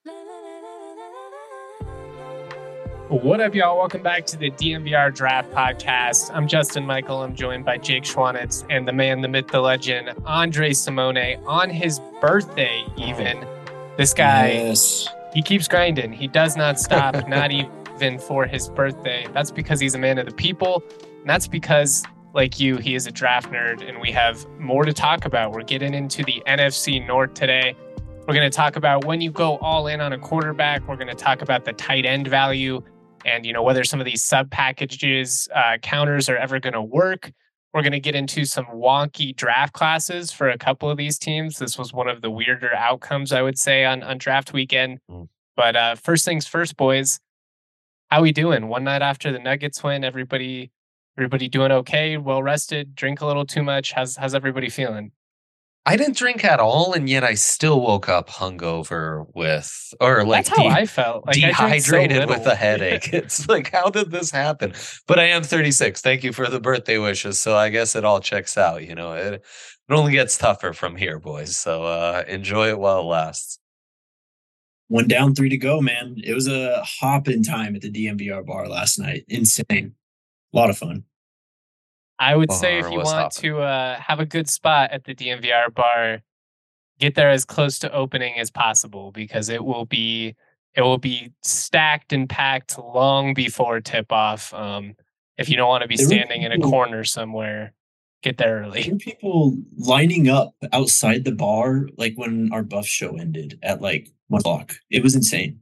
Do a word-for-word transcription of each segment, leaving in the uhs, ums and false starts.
What up, y'all? Welcome back to the D N V R Draft Podcast. I'm Justin Michael. I'm joined by Jake Schwanitz and the man, the myth, the legend, Andre Simone. On his birthday, even. This guy, yes. He keeps grinding. He does not stop, not even for his birthday. That's because he's a man of the people. And that's because, like you, he is a draft nerd, and we have more to talk about. We're getting into the N F C North today. We're going to talk about when you go all in on a quarterback. We're going to talk about the tight end value and, you know, whether some of these sub packages uh, counters are ever going to work. We're going to get into some wonky draft classes for a couple of these teams. This was one of the weirder outcomes, I would say, on, on draft weekend. Mm. But uh, first things first, boys, how we doing? One night after the Nuggets win, everybody everybody doing okay? Well rested? Drink a little too much? How's how's everybody feeling? I didn't drink at all, and yet I still woke up hungover with, or like That's how de- I felt. Like dehydrated so with a headache. It's like, how did this happen? But I am thirty-six. Thank you for the birthday wishes. So I guess it all checks out. You know, it, it only gets tougher from here, boys. So uh, enjoy it while it lasts. One down, three to go, man. It was a hop in time at the D N V R bar last night. Insane. A lot of fun. I would say if you want hopping. to uh, have a good spot at the D N V R bar, get there as close to opening as possible, because it will be it will be stacked and packed long before tip off. Um, if you don't want to be there standing people, in a corner somewhere, get there early. There were people lining up outside the bar, like when our Buff show ended at like one o'clock. It was insane.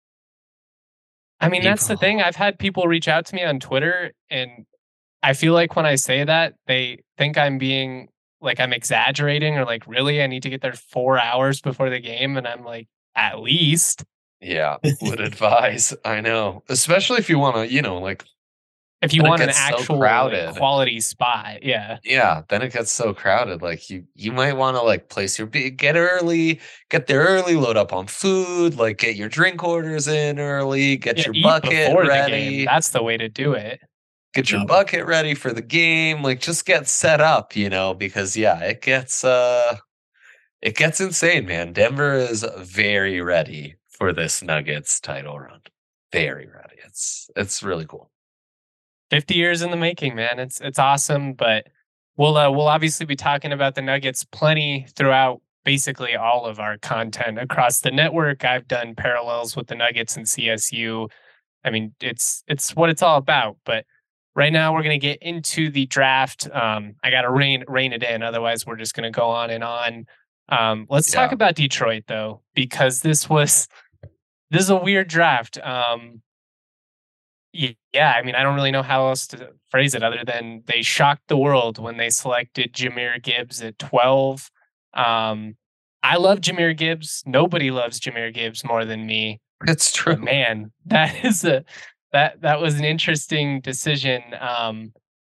I mean, that's the thing. I've had people reach out to me on Twitter, and I feel like when I say that, they think I'm being like I'm exaggerating, or like, really, I need to get there four hours before the game. And I'm like, at least. Yeah, would advise. I know. Especially if you want to, you know, like. If you want an actual so like, quality spot. Yeah. Yeah. Then it gets so crowded. Like you, you might want to like place your big, get early, get there early, load up on food, like get your drink orders in early, get yeah, your eat bucket before ready. The game. That's the way to do it. Get your bucket ready for the game. Like just get set up, you know, because yeah, it gets uh it gets insane, man. Denver is very ready for this Nuggets title run. Very ready. It's it's really cool. fifty years in the making, man. It's it's awesome, but we'll uh, we'll obviously be talking about the Nuggets plenty throughout basically all of our content across the network. I've done parallels with the Nuggets and C S U. I mean, it's it's what it's all about, but right now, we're going to get into the draft. Um, I got to rein, rein it in. Otherwise, we're just going to go on and on. Um, let's yeah. talk about Detroit, though, because this was this is a weird draft. Um, yeah, I mean, I don't really know how else to phrase it other than they shocked the world when they selected Jahmyr Gibbs at twelve. Um, I love Jahmyr Gibbs. Nobody loves Jahmyr Gibbs more than me. That's true. But man, that is a... That that was an interesting decision. Um,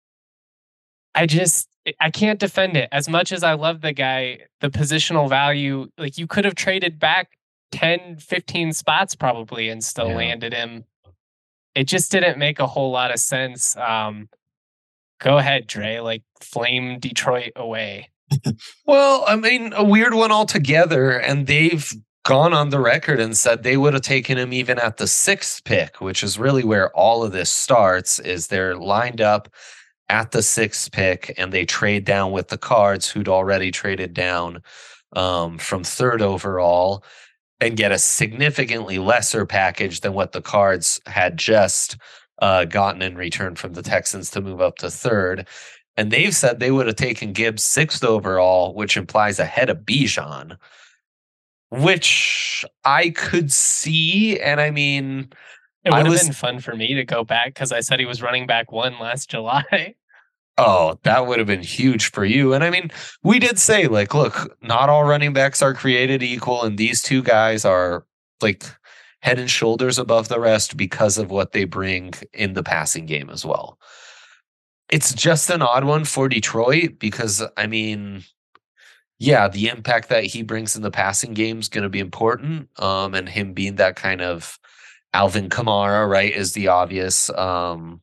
I just I can't defend it as much as I love the guy. The positional value, like you could have traded back ten, fifteen spots probably and still yeah. landed him. It just didn't make a whole lot of sense. Um, go ahead, Dre. Like flame Detroit away. Well, I mean, a weird one altogether, and they've gone on the record and said they would have taken him even at the sixth pick, which is really where all of this starts, is they're lined up at the sixth pick and they trade down with the Cards, who'd already traded down um, from third overall, and get a significantly lesser package than what the Cards had just uh, gotten in return from the Texans to move up to third. And they've said they would have taken Gibbs sixth overall, which implies ahead of Bijan, which I could see. And I mean, it would I have was, been fun for me to go back because I said he was running back one last July. Oh, that would have been huge for you. And I mean, we did say, like, look, not all running backs are created equal. And these two guys are like head and shoulders above the rest because of what they bring in the passing game as well. It's just an odd one for Detroit because, I mean, yeah, the impact that he brings in the passing game is going to be important. Um, and him being that kind of Alvin Kamara, right, is the obvious um,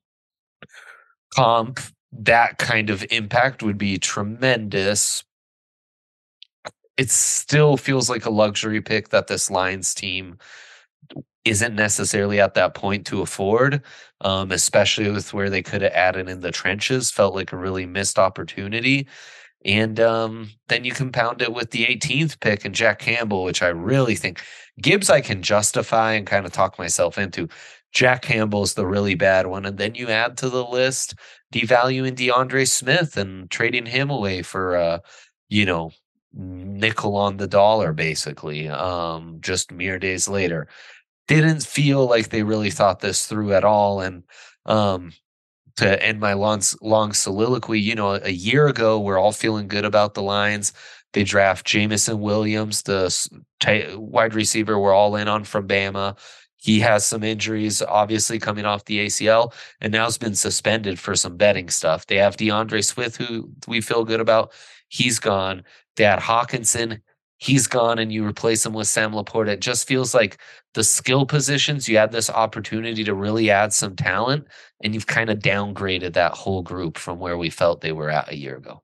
comp. That kind of impact would be tremendous. it still feels like a luxury pick that this Lions team isn't necessarily at that point to afford, um, especially with where they could have added in the trenches. Felt like a really missed opportunity. And um, then you compound it with the eighteenth pick and Jack Campbell, which I really think Gibbs I can justify and kind of talk myself into. Jack Campbell's the really bad one. And then you add to the list devaluing DeAndre Smith and trading him away for, uh, you know, nickel on the dollar, basically, um, just mere days later. Didn't feel like they really thought this through at all. And um, to end my long, long soliloquy, you know, a year ago, we're all feeling good about the Lions. They draft Jamison Williams, the t- wide receiver we're all in on from Bama. He has some injuries, obviously, coming off the A C L, and now has been suspended for some betting stuff. They have DeAndre Swift, who we feel good about. He's gone. They had Hawkinson. He's gone, and you replace him with Sam Laporta. It just feels like the skill positions, you had this opportunity to really add some talent, and you've kind of downgraded that whole group from where we felt they were at a year ago.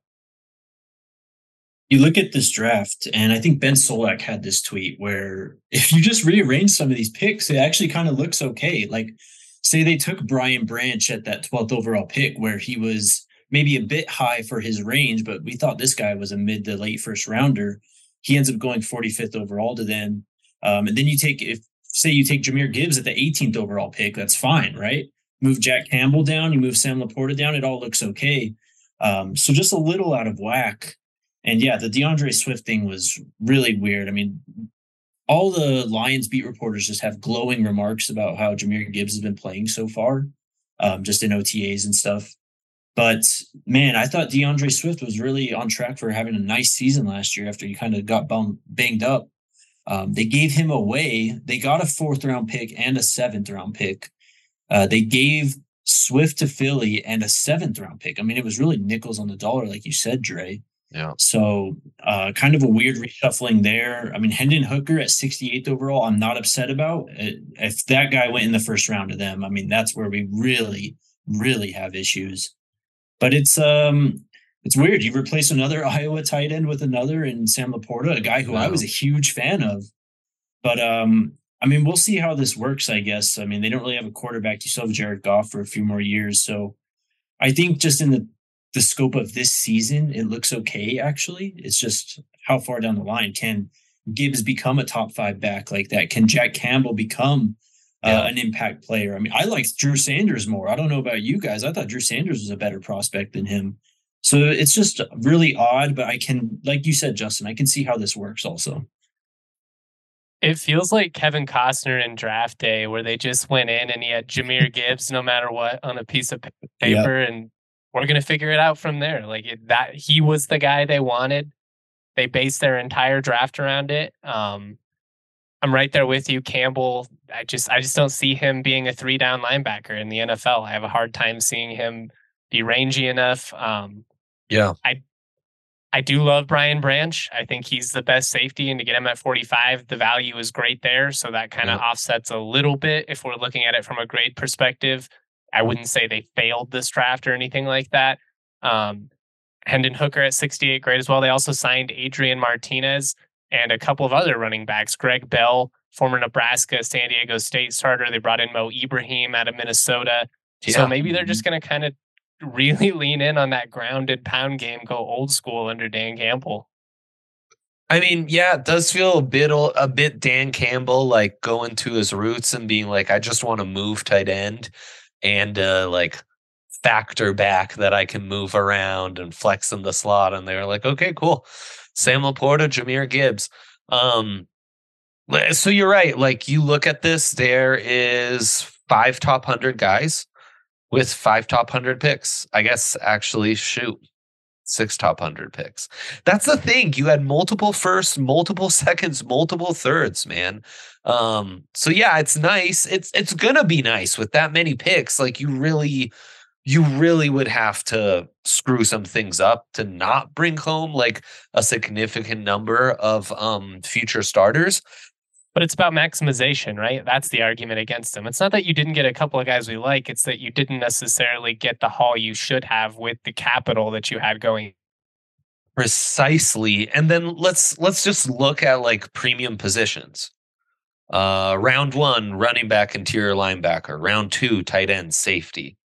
You look at this draft, and I think Ben Solak had this tweet where if you just rearrange some of these picks, it actually kind of looks okay. Like, say they took Brian Branch at that twelfth overall pick, where he was maybe a bit high for his range, but we thought this guy was a mid to late first rounder. He ends up going forty-fifth overall to them. Um, and then you take, if say you take Jahmyr Gibbs at the eighteenth overall pick, that's fine, right? Move Jack Campbell down, you move Sam Laporta down, it all looks okay. Um, so just a little out of whack. And yeah, the DeAndre Swift thing was really weird. I mean, all the Lions beat reporters just have glowing remarks about how Jahmyr Gibbs has been playing so far, um, just in O T As and stuff. But man, I thought DeAndre Swift was really on track for having a nice season last year after he kind of got bum- banged up. Um, they gave him away. They got a fourth round pick and a seventh round pick. Uh, they gave Swift to Philly and a seventh round pick. I mean, it was really nickels on the dollar, like you said, Dre. Yeah. So uh, kind of a weird reshuffling there. I mean, Hendon Hooker at sixty-eighth overall, I'm not upset about. If that guy went in the first round to them, I mean, that's where we really, really have issues. But it's um it's weird. You replace another Iowa tight end with another in Sam Laporta, a guy who wow. I was a huge fan of. But um, I mean, we'll see how this works, I guess. I mean, they don't really have a quarterback. You still have Jared Goff for a few more years. So I think just in the, the scope of this season, it looks okay, actually. It's just how far down the line can Gibbs become a top five back like that? Can Jack Campbell become Uh, yeah. an impact player? I mean, I liked Drew Sanders more. I don't know about you guys. I thought Drew Sanders was a better prospect than him. So it's just really odd, but I can, like you said, Justin, I can see how this works also. It feels like Kevin Costner in Draft Day, where they just went in and he had Jahmyr Gibbs no matter what on a piece of paper, yep. and we're going to figure it out from there. Like it, that, he was the guy they wanted. They based their entire draft around it. Um, I'm right there with you, Campbell. I just I just don't see him being a three down linebacker in the N F L. I have a hard time seeing him be rangy enough. Um, yeah, I I do love Brian Branch. I think he's the best safety, and to get him at forty-five, the value is great there. So that kind of yeah. offsets a little bit if we're looking at it from a grade perspective. I wouldn't say they failed this draft or anything like that. Um, Hendon Hooker at sixty-eight, great as well. They also signed Adrian Martinez and a couple of other running backs. Greg Bell, former Nebraska, San Diego State starter. They brought in Mo Ibrahim out of Minnesota. Yeah. So maybe they're just going to kind of really lean in on that grounded pound game, go old school under Dan Campbell. I mean, yeah, it does feel a bit a bit Dan Campbell, like going to his roots and being like, I just want to move tight end and uh, like factor back that I can move around and flex in the slot. And they were like, okay, cool. Sam Laporta, Jahmyr Gibbs. Um, so you're right. Like you look at this, there is five top one hundred guys with five top one hundred picks. I guess actually, shoot, six top one hundred picks. That's the thing. You had multiple firsts, multiple seconds, multiple thirds, man. Um, so yeah, it's nice. It's it's gonna be nice with that many picks. Like you really. You really would have to screw some things up to not bring home like a significant number of um, future starters. But it's about maximization, right? That's the argument against them. It's not that you didn't get a couple of guys we like. It's that you didn't necessarily get the haul you should have with the capital that you had going. Precisely. And then let's let's just look at like premium positions. Uh, round one, running back, interior linebacker. Round two, tight end, safety.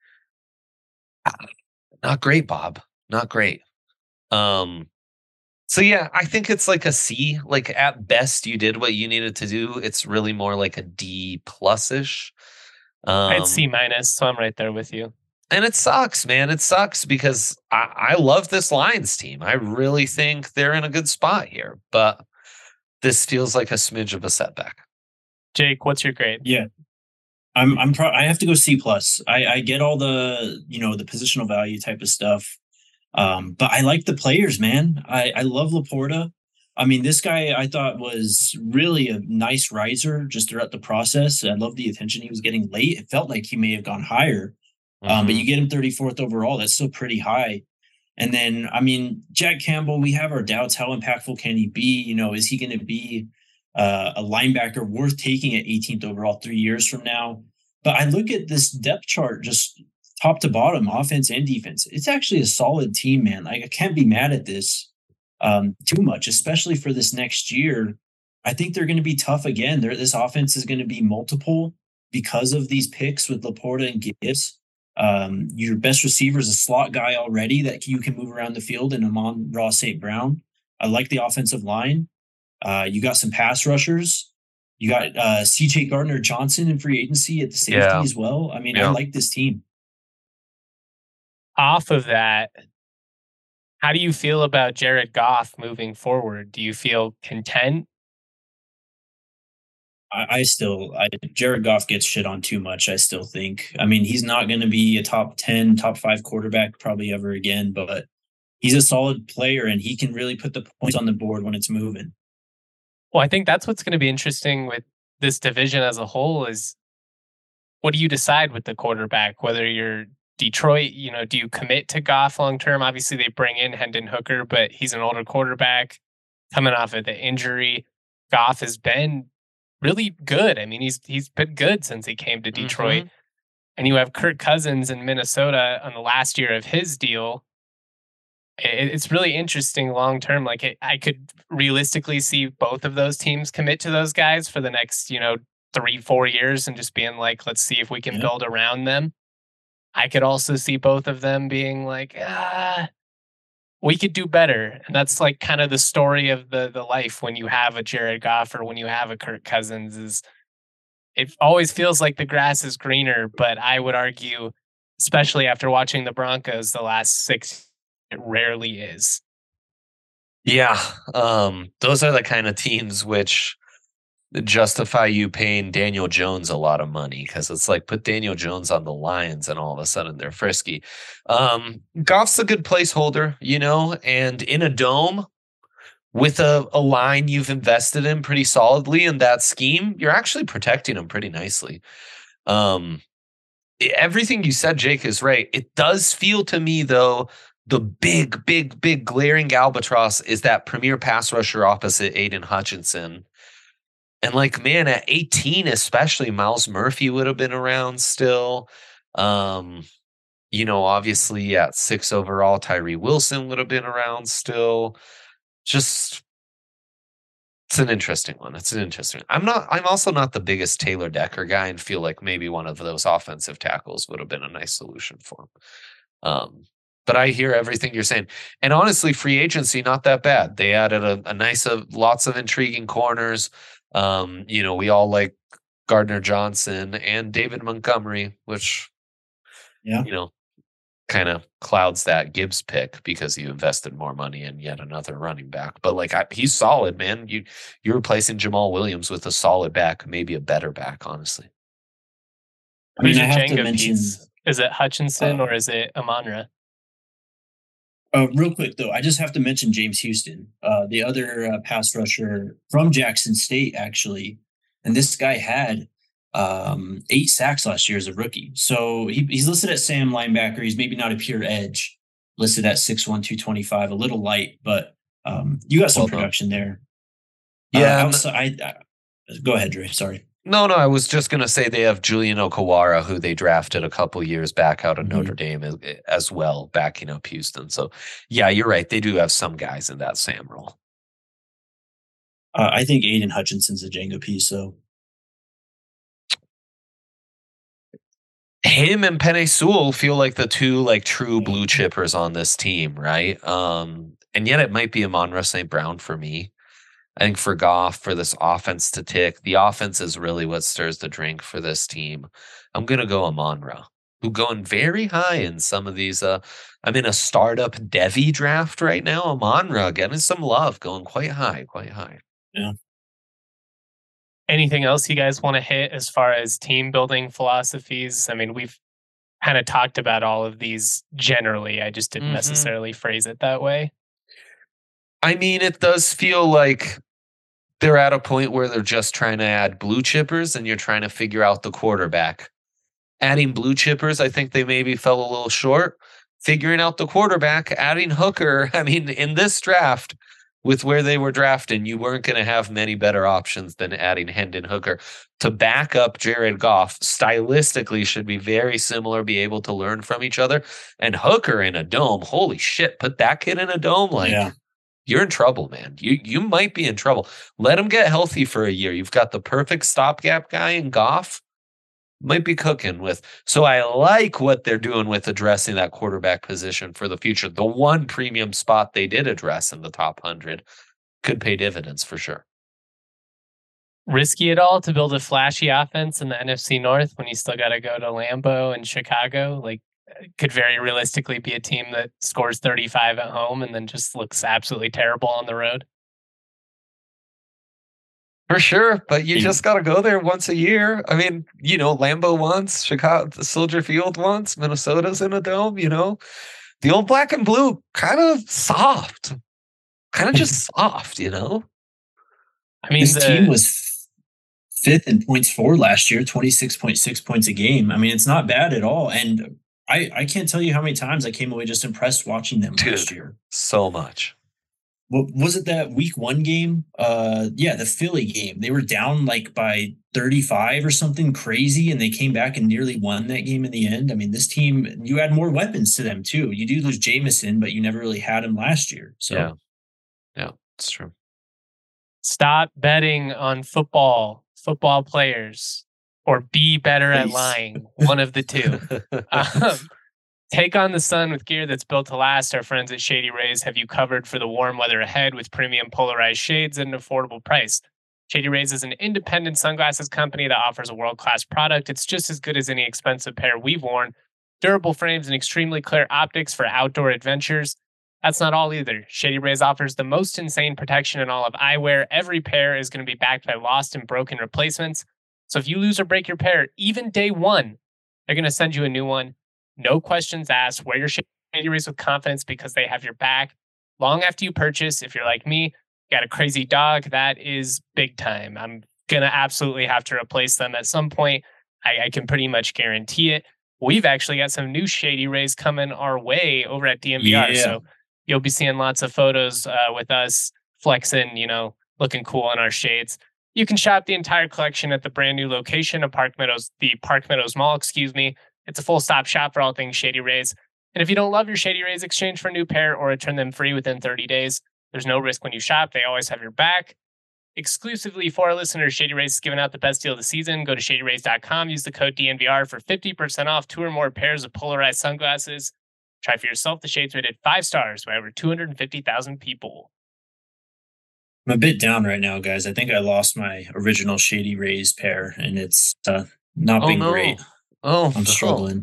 Not great, Bob. Not great. Um, so yeah, I think it's like a C. Like at best, you did what you needed to do. It's really more like a D plus ish. I had Um, C minus, so I'm right there with you. and it sucks, man. It sucks because I, I love this Lions team. I really think they're in a good spot here, but this feels like a smidge of a setback. Jake, what's your grade? Yeah. I'm I'm pro- I have to go C plus. I, I get all the, you know, the positional value type of stuff. Um, but I like the players, man. I, I love Laporta. I mean, this guy I thought was really a nice riser just throughout the process. I love the attention he was getting late. It felt like he may have gone higher. Mm-hmm. Um, but you get him thirty-fourth overall. That's still pretty high. And then, I mean, Jack Campbell, we have our doubts. How impactful can he be? You know, is he going to be uh, a linebacker worth taking at eighteenth overall three years from now? But I look at this depth chart, just top to bottom, offense and defense. It's actually a solid team, man. Like I can't be mad at this um, too much, especially for this next year. I think they're going to be tough again. They're, this offense is going to be multiple because of these picks with Laporta and Gibbs. Um, your best receiver is a slot guy already that you can move around the field in Amon-Ra Saint Brown. I like the offensive line. Uh, you got some pass rushers. You got uh, C J Gardner-Johnson in free agency at the safety Yeah. as well. I mean, Yeah. I like this team. Off of that, how do you feel about Jared Goff moving forward? Do you feel content? I, I still, I, Jared Goff gets shit on too much, I still think. I mean, he's not going to be a top ten, top five quarterback probably ever again, but he's a solid player and he can really put the points on the board when it's moving. Well, I think that's what's going to be interesting with this division as a whole is what do you decide with the quarterback? Whether you're Detroit, you know, do you commit to Goff long term? Obviously, they bring in Hendon Hooker, but he's an older quarterback coming off of the injury. Goff has been really good. I mean, he's he's been good since he came to Detroit. Mm-hmm. And you have Kirk Cousins in Minnesota on the last year of his deal. It, it's really interesting long term. Like it, I could realistically see both of those teams commit to those guys for the next, you know, three, four years and just being like, let's see if we can Yeah. build around them. I could also see both of them being like, ah, we could do better. And that's like kind of the story of the the life when you have a Jared Goff or when you have a Kirk Cousins is it always feels like the grass is greener, but I would argue, especially after watching the Broncos the last six, it rarely is. Yeah. Um, those are the kind of teams which justify you paying Daniel Jones a lot of money because it's like put Daniel Jones on the Lions and all of a sudden they're frisky. Um, Goff's a good placeholder, you know, and in a dome with a, a line you've invested in pretty solidly in that scheme, you're actually protecting him pretty nicely. Um, everything you said, Jake, is right. It does feel to me, though, the big, big, big glaring albatross is that premier pass rusher opposite Aiden Hutchinson. And like, man, at eighteen, especially, Miles Murphy would have been around still. Um, you know, obviously at six overall, Tyree Wilson would have been around still. Just, it's an interesting one. It's an interesting. I'm not. I'm also not the biggest Taylor Decker guy, and feel like maybe one of those offensive tackles would have been a nice solution for him. Um, but I hear everything you're saying, and honestly, free agency not that bad. They added a, a nice, of lots of intriguing corners. Um, you know, we all like Gardner Johnson and David Montgomery, which, Yeah. you know, kind of clouds that Gibbs pick because you invested more money in yet another running back. But like, I, he's solid, man. You you're replacing Jamal Williams with a solid back, maybe a better back, honestly. I mean, Who's I your have to Jenga mention, piece? Is it Hutchinson uh, or is it Amon-Ra? uh, real quick though, I just have to mention James Houston, uh, the other uh, pass rusher from Jackson State, actually. And this guy had um, eight sacks last year as a rookie. So he, he's listed at Sam linebacker. He's maybe not a pure edge, listed at six one, two twenty-five, a little light, but um, you got some Well done. production there. Yeah, Uh, and- outside, I, I, go ahead, Dre. Sorry. No, no, I was just going to say they have Julian Okawara, who they drafted a couple years back out of Mhm. Notre Dame as, as well, backing up Houston. So, yeah, you're right. They do have some guys in that Sam role. Uh, I think Aiden Hutchinson's a Jenga piece, though. Him and Penei Sewell feel like the two like true blue chippers on this team, right? Um, and yet it might be Amon-Ra Saint Brown for me. I think for Goff, for this offense to tick, the offense is really what stirs the drink for this team. I'm gonna go Amon-Ra, who going very high in some of these. Uh, I'm in a startup Devi draft right now. Amon-Ra getting some love, going quite high, quite high. Yeah. Anything else you guys want to hit as far as team building philosophies? I mean, we've kind of talked about all of these generally. I just didn't Mhm. necessarily phrase it that way. I mean, it does feel like they're at a point where they're just trying to add blue chippers and you're trying to figure out the quarterback. Adding blue chippers, I think they maybe fell a little short. Figuring out the quarterback, adding Hooker. I mean, in this draft, with where they were drafting, you weren't going to have many better options than adding Hendon Hooker to back up Jared Goff. Stylistically, should be very similar, be able to learn from each other. And Hooker in a dome, holy shit! Put that kid in a dome, like Yeah. you're in trouble, man. You you might be in trouble. Let him get healthy for a year. You've got the perfect stopgap guy in Goff. Might be cooking with. So I like what they're doing with addressing that quarterback position for the future. The one premium spot they did address in the top one hundred could pay dividends for sure. Risky at all to build a flashy offense in the N F C North when you still got to go to Lambeau and Chicago? Like, it could very realistically be a team that scores thirty-five at home and then just looks absolutely terrible on the road. For sure, but you Yeah. just got to go there once a year. I mean, you know, Lambeau once, Chicago, Soldier Field once, Minnesota's in a dome, you know. The old black and blue, kind of soft. Kind of just soft, you know. I mean, This the, team was fifth in points for last year, twenty-six point six points a game. I mean, it's not bad at all. And I, I can't tell you how many times I came away just impressed watching them Dude. last year. So much. What was it, that week one game? Uh, yeah, the Philly game. They were down like by thirty-five or something crazy, and they came back and nearly won that game in the end. I mean, this team, you add more weapons to them too. You do lose Jameson, but you never really had him last year. So Yeah. Yeah, it's true. stop betting on football, football players, or be better at Please. lying. One of the two. Um, take on the sun with gear that's built to last. Our friends at Shady Rays have you covered for the warm weather ahead with premium polarized shades at an affordable price. Shady Rays is an independent sunglasses company that offers a world-class product. It's just as good as any expensive pair we've worn. Durable frames and extremely clear optics for outdoor adventures. That's not all either. Shady Rays offers the most insane protection in all of eyewear. Every pair is going to be backed by lost and broken replacements. So if you lose or break your pair, even day one, they're going to send you a new one. No questions asked. Wear your Shady Rays with confidence because they have your back. Long after you purchase, if you're like me, got a crazy dog, that is big time. I'm going to absolutely have to replace them at some point. I, I can pretty much guarantee it. We've actually got some new Shady Rays coming our way over at D N V R. Yeah. So you'll be seeing lots of photos uh, with us flexing, you know, looking cool in our shades. You can shop the entire collection at the brand new location of Park Meadows, the Park Meadows Mall, excuse me. It's a full stop shop for all things Shady Rays. And if you don't love your Shady Rays, exchange for a new pair or return them free within thirty days. There's no risk when you shop. They always have your back. Exclusively for our listeners, Shady Rays is giving out the best deal of the season. Go to shady rays dot com. Use the code D N V R for fifty percent off two or more pairs of polarized sunglasses. Try for yourself. The shades rated five stars by over two hundred fifty thousand people. I'm a bit down right now, guys. I think I lost my original Shady Rays pair, and it's uh, not Oh, been no. great. Oh, I'm no. struggling.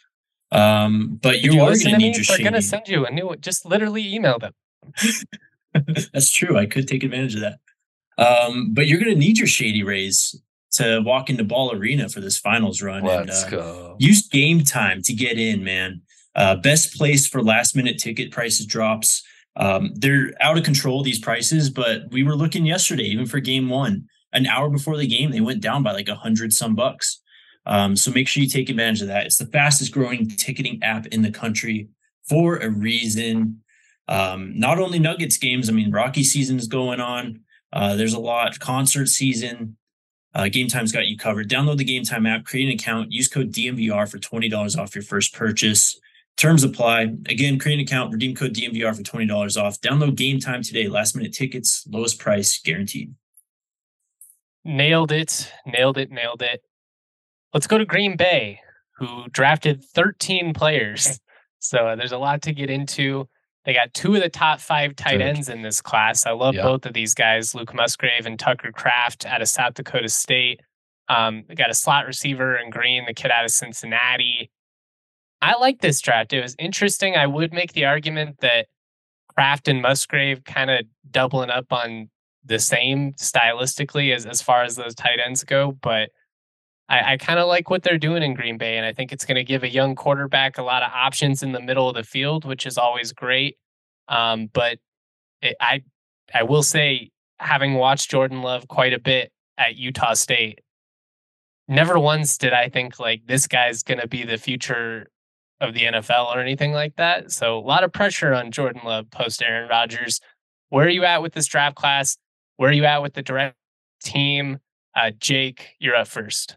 Um, but Did you, you are listen going to to need me? your They're Shady. going to send you a new one. Just literally email them. That's true. I could take advantage of that. Um, but you're going to need your Shady Rays to walk into Ball Arena for this finals run. Let's and, uh, go. Use Game Time to get in, man. Uh, best place for last minute ticket prices drops. Um, they're out of control, these prices, but we were looking yesterday, even for game one, an hour before the game, they went down by like a hundred some bucks. Um, so make sure you take advantage of that. It's the fastest growing ticketing app in the country for a reason. Um, not only Nuggets games, I mean, Rocky season is going on. Uh, there's a lot, concert season. Uh, Game Time's got you covered. Download the Game Time app, create an account, use code D M V R for twenty dollars off your first purchase. Terms apply. Again, create an account, redeem code D M V R for twenty dollars off. Download Game Time today. Last minute tickets, lowest price guaranteed. Nailed it. Nailed it. Nailed it. Let's go to Green Bay, who drafted thirteen players. So uh, there's a lot to get into. They got two of the top five tight ends in this class. I love Yeah. both of these guys, Luke Musgrave and Tucker Kraft out of South Dakota State. Um, they got a slot receiver in Green, the kid out of Cincinnati. I like this draft. It was interesting. I would make the argument that Kraft and Musgrave kind of doubling up on the same stylistically as, as far as those tight ends go, but I, I kind of like what they're doing in Green Bay, and I think it's going to give a young quarterback a lot of options in the middle of the field, which is always great. Um, but it, I, I will say, having watched Jordan Love quite a bit at Utah State, never once did I think like this guy's going to be the future of the N F L or anything like that. So a lot of pressure on Jordan Love post Aaron Rodgers. Where are you at with this draft class? Where are you at with the direct team? Uh, Jake, you're up first.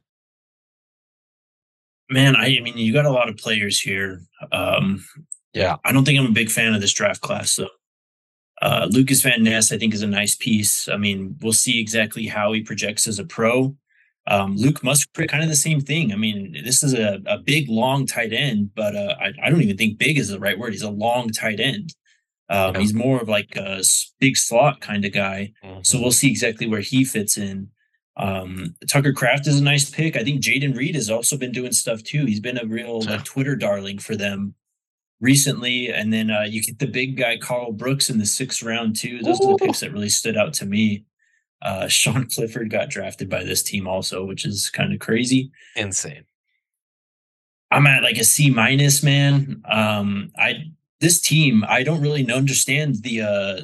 Man, I, I mean, you got a lot of players here. Um, Yeah. I don't think I'm a big fan of this draft class, though. Uh, Lucas Van Ness, I think, is a nice piece. I mean, we'll see exactly how he projects as a pro. Um, Luke Musgrave, kind of the same thing. I mean, this is a, a big, long tight end, but uh, I, I don't even think big is the right word. He's a long tight end. Um, Yeah. He's more of like a s- big slot kind of guy. Mhm. So we'll see exactly where he fits in. Um, Tucker Kraft is a nice pick. I think Jaden Reed has also been doing stuff too. He's been a real Yeah. like Twitter darling for them recently. And then uh, you get the big guy Carl Brooks in the sixth round too. Those are the picks that really stood out to me. Uh, Sean Clifford got drafted by this team also, which is kind of crazy. Insane. I'm at like a C minus, man. Um, I this team, I don't really understand the uh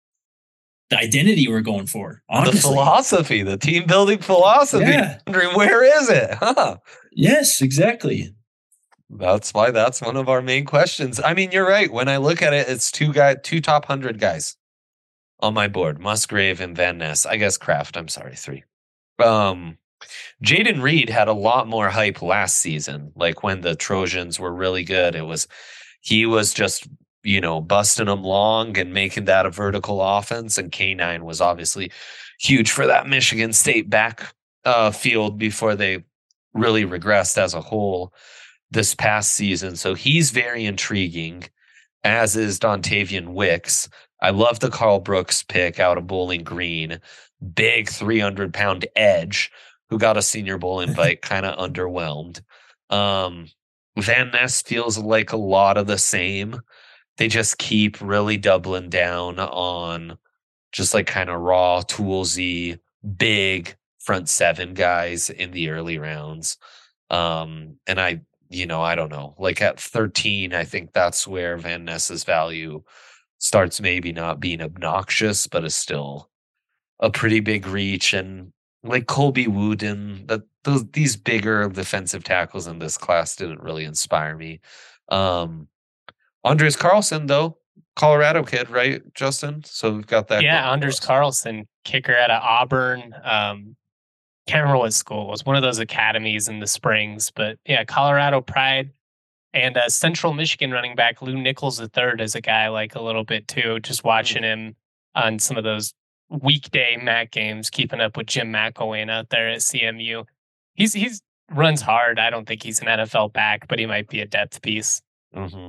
the identity we're going for. Honestly. The philosophy, the team building philosophy. Yeah. Wondering where is it? Huh? Yes, exactly. That's why that's one of our main questions. I mean, you're right. When I look at it, it's two guy, two top hundred guys on my board: Musgrave and Van Ness. I guess Kraft. I'm sorry, three. Um, Jaden Reed had a lot more hype last season. Like when the Trojans were really good, it was he was just you know busting them long and making that a vertical offense. And K nine was obviously huge for that Michigan State back uh, field before they really regressed as a whole this past season. So he's very intriguing, as is Dontavian Wicks. I love the Carl Brooks pick out of Bowling Green. Big three hundred pound edge who got a Senior Bowl invite, kind of underwhelmed. Um, Van Ness feels like a lot of the same. They just keep really doubling down on just like kind of raw, toolsy, big front seven guys in the early rounds. Um, and I, you know, I don't know, like at thirteen, I think that's where Van Ness's value starts maybe not being obnoxious, but is still a pretty big reach. And like Colby Wooden, that those these bigger defensive tackles in this class didn't really inspire me. Um, Andres Carlson, though, Colorado kid, right, Justin? So we've got that. Yeah, Anders Carlson, kicker out of Auburn. Um, can't remember what school it was. One of those academies in the Springs, but yeah, Colorado Pride. And uh, Central Michigan running back Lou Nichols the third is a guy I like a little bit too. Just watching him on some of those weekday M A C games, keeping up with Jim McElwain out there at C M U. He's he's runs hard. I don't think he's an N F L back, but he might be a depth piece. Mm-hmm.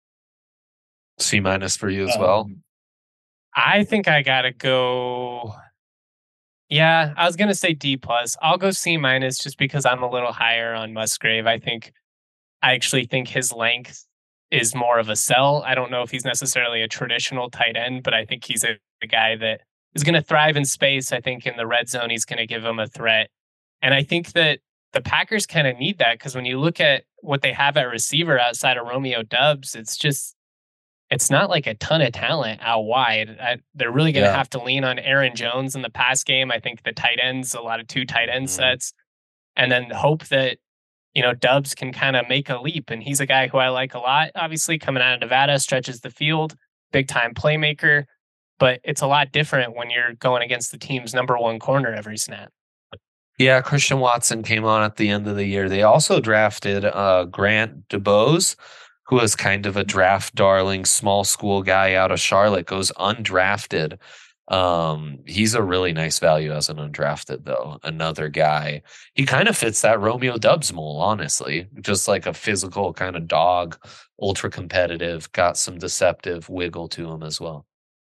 C minus for you as well. Um, I think I gotta go. Yeah, I was gonna say D plus. I'll go C minus just because I'm a little higher on Musgrave. I think I actually think his length is more of a sell. I don't know if he's necessarily a traditional tight end, but I think he's a, a guy that is going to thrive in space. I think in the red zone, he's going to give him a threat. And I think that the Packers kind of need that because when you look at what they have at receiver outside of Romeo Doubs, it's just, it's not like a ton of talent out wide. I, they're really going to Yeah. have to lean on Aaron Jones in the pass game. I think the tight ends, a lot of two tight end Mhm. sets, and then hope that, you know, Doubs can kind of make a leap. And he's a guy who I like a lot. Obviously, coming out of Nevada, stretches the field, big time playmaker. But it's a lot different when you're going against the team's number one corner every snap. Yeah, Christian Watson came on at the end of the year. They also drafted uh, Grant DuBose, who was kind of a draft darling, small school guy out of Charlotte, goes undrafted. Um, he's a really nice value as an undrafted, though. Another guy. He kind of fits that Romeo Dubs mold, honestly. Just like a physical kind of dog, ultra competitive, got some deceptive wiggle to him as well.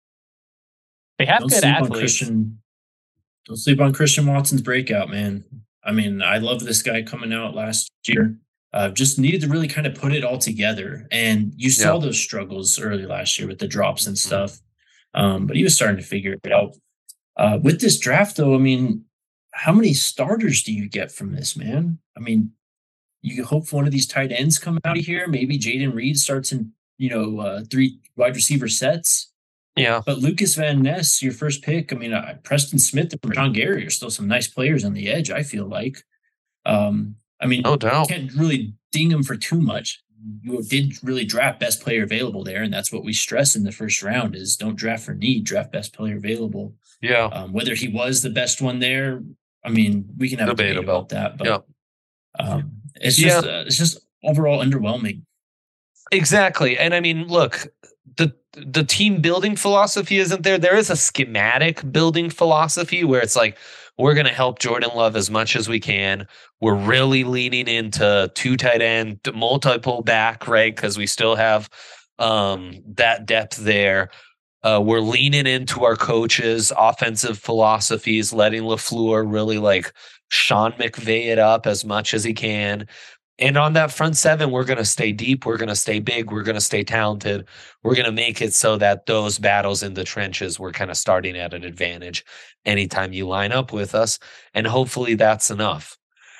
They have Don't good sleep on athletes. Christian. Don't sleep on Christian Watson's breakout, man. I mean, I love this guy coming out last year. Uh, just needed to really kind of put it all together. And you saw Yeah. those struggles early last year with the drops and Mhm. stuff. Um, but he was starting to figure it out. Uh, with this draft, though, I mean, how many starters do you get from this, man? I mean, you hope one of these tight ends come out of here. Maybe Jaden Reed starts in, you know, uh, three wide receiver sets. Yeah. But Lucas Van Ness, your first pick, I mean, uh, Preston Smith and John Gary are still some nice players on the edge, I feel like. Um, I mean, No doubt. can't really ding them for too much. You did really draft best player available there, and that's what we stress in the first round is don't draft for need, draft best player available. Yeah. Um, whether he was the best one there, I mean, we can have a debate Debatable. about that, but Yeah. um, it's Yeah. just uh, it's just overall underwhelming. Exactly. And I mean, look, the the team building philosophy isn't there. There is a schematic building philosophy where it's like, we're going to help Jordan Love as much as we can. We're really leaning into two tight end, multiple back, right? Because we still have um, that depth there. Uh, we're leaning into our coaches' offensive philosophies, letting LaFleur really like Sean McVay it up as much as he can. And on that front seven, we're going to stay deep. We're going to stay big. We're going to stay talented. We're going to make it so that those battles in the trenches, we're kind of starting at an advantage anytime you line up with us. And hopefully that's enough.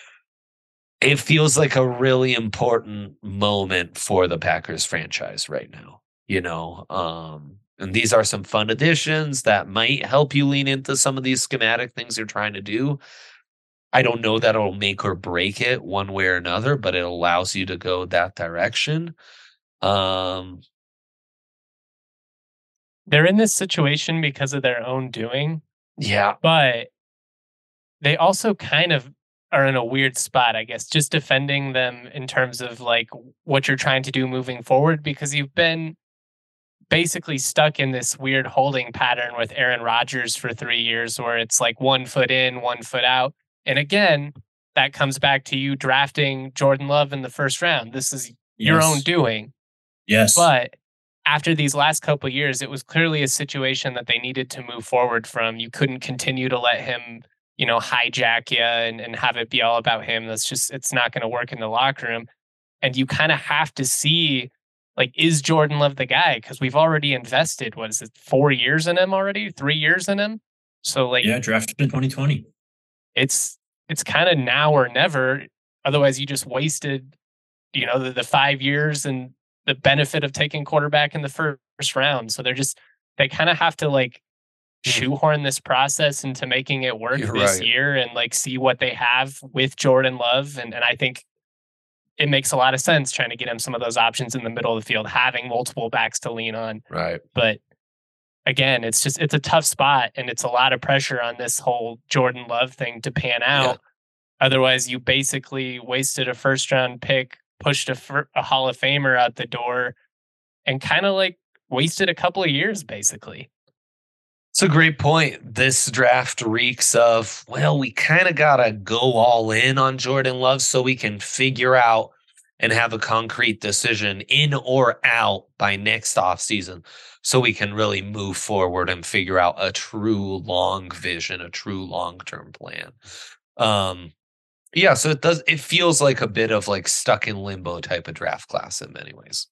It feels like a really important moment for the Packers franchise right now, you know? Um, and these are some fun additions that might help you lean into some of these schematic things you're trying to do. I don't know that it'll make or break it one way or another, but it allows you to go that direction. Um, They're in this situation because of their own doing, yeah, but they also kind of are in a weird spot, I guess, just defending them in terms of like what you're trying to do moving forward, because you've been basically stuck in this weird holding pattern with Aaron Rodgers for three years where it's like one foot in, one foot out. And again, that comes back to you drafting Jordan Love in the first round. This is your Yes. own doing. Yes. But after these last couple of years, it was clearly a situation that they needed to move forward from. You couldn't continue to let him, you know, hijack you and, and have it be all about him. That's just, it's not going to work in the locker room. And you kind of have to see, like, is Jordan Love the guy? Because we've already invested, what is it, four years in him already? Three years in him? So, like, yeah, drafted in twenty twenty. it's it's kind of now or never. Otherwise, you just wasted, you know, the, the five years and the benefit of taking quarterback in the first round. So they're just, they kind of have to like shoehorn this process into making it work You're this right. year and like see what they have with Jordan Love. And, and I think it makes a lot of sense trying to get him some of those options in the middle of the field, having multiple backs to lean on. right. But again, it's just, it's a tough spot and it's a lot of pressure on this whole Jordan Love thing to pan out. Yeah. Otherwise, you basically wasted a first round pick, pushed a, fir- a Hall of Famer out the door, and kind of like wasted a couple of years, basically. It's a great point. This draft reeks of, well, we kind of got to go all in on Jordan Love so we can figure out and have a concrete decision in or out by next offseason so we can really move forward and figure out a true long vision, a true long-term plan. Um, yeah, so it does, it feels like a bit of like stuck in limbo type of draft class in many ways.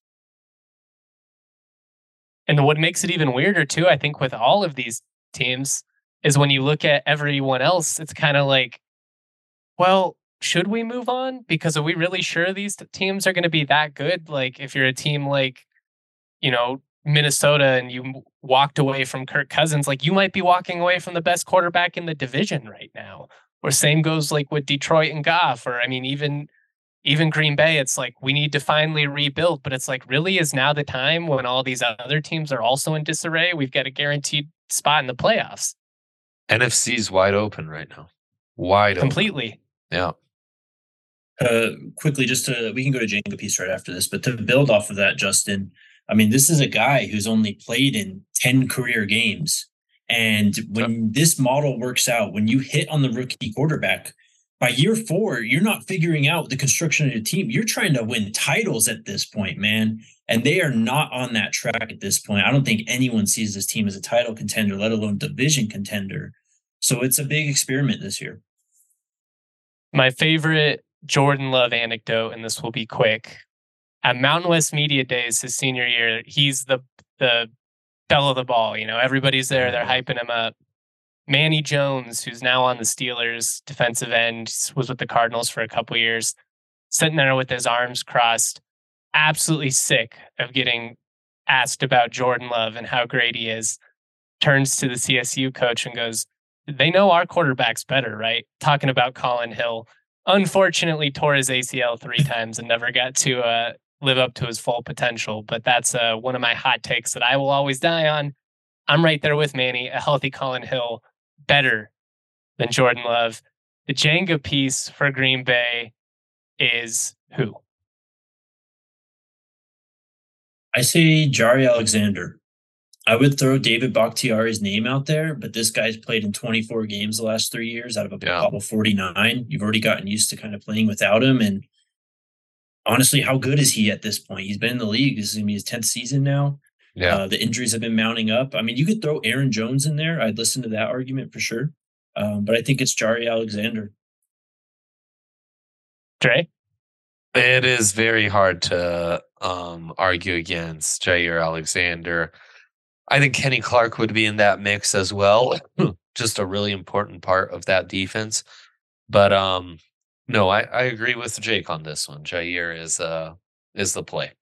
And what makes it even weirder, too, I think, with all of these teams is when you look at everyone else, it's kind of like, well, should we move on? Because are we really sure these t- teams are going to be that good? Like, if you're a team like, you know, Minnesota and you m- walked away from Kirk Cousins, like you might be walking away from the best quarterback in the division right now. Or same goes like with Detroit and Goff, or I mean, even even Green Bay, it's like we need to finally rebuild, but it's like, really, is now the time when all these other teams are also in disarray? We've got a guaranteed spot in the playoffs. N F C's wide open right now. Wide open. completely. Yeah. Uh, quickly, just to we can go to Jenga piece right after this, but to build off of that, Justin, I mean, this is a guy who's only played in ten career games. And when this model works out, when you hit on the rookie quarterback, by year four, you're not figuring out the construction of your team. You're trying to win titles at this point, man. And they are not on that track at this point. I don't think anyone sees this team as a title contender, let alone division contender. So it's a big experiment this year. My favorite Jordan Love anecdote, and this will be quick. At Mountain West Media Days, his senior year, he's the the belle of the ball. You know, everybody's there. They're hyping him up. Manny Jones, who's now on the Steelers, defensive end, was with the Cardinals for a couple years, sitting there with his arms crossed, absolutely sick of getting asked about Jordan Love and how great he is, turns to the C S U coach and goes, they know our quarterback's better, right? Talking about Colin Hill. Unfortunately, tore his A C L three times and never got to uh, live up to his full potential. But that's uh, one of my hot takes that I will always die on. I'm right there with Manny. A healthy Colin Hill, better than Jordan Love. The Jenga piece for Green Bay is who? I say Jari Alexander. I would throw David Bakhtiari's name out there, but this guy's played in twenty-four games the last three years out of a yeah. probable forty-nine. You've already gotten used to kind of playing without him. And honestly, how good is he at this point? He's been in the league. This is going to be his tenth season now. Yeah. Uh, the injuries have been mounting up. I mean, you could throw Aaron Jones in there. I'd listen to that argument for sure. Um, but I think it's Jari Alexander. Dre? It is very hard to um, argue against Jair Alexander. I think Kenny Clark would be in that mix as well. Just a really important part of that defense. But um, no, I, I agree with Jake on this one. Jair is uh is the play.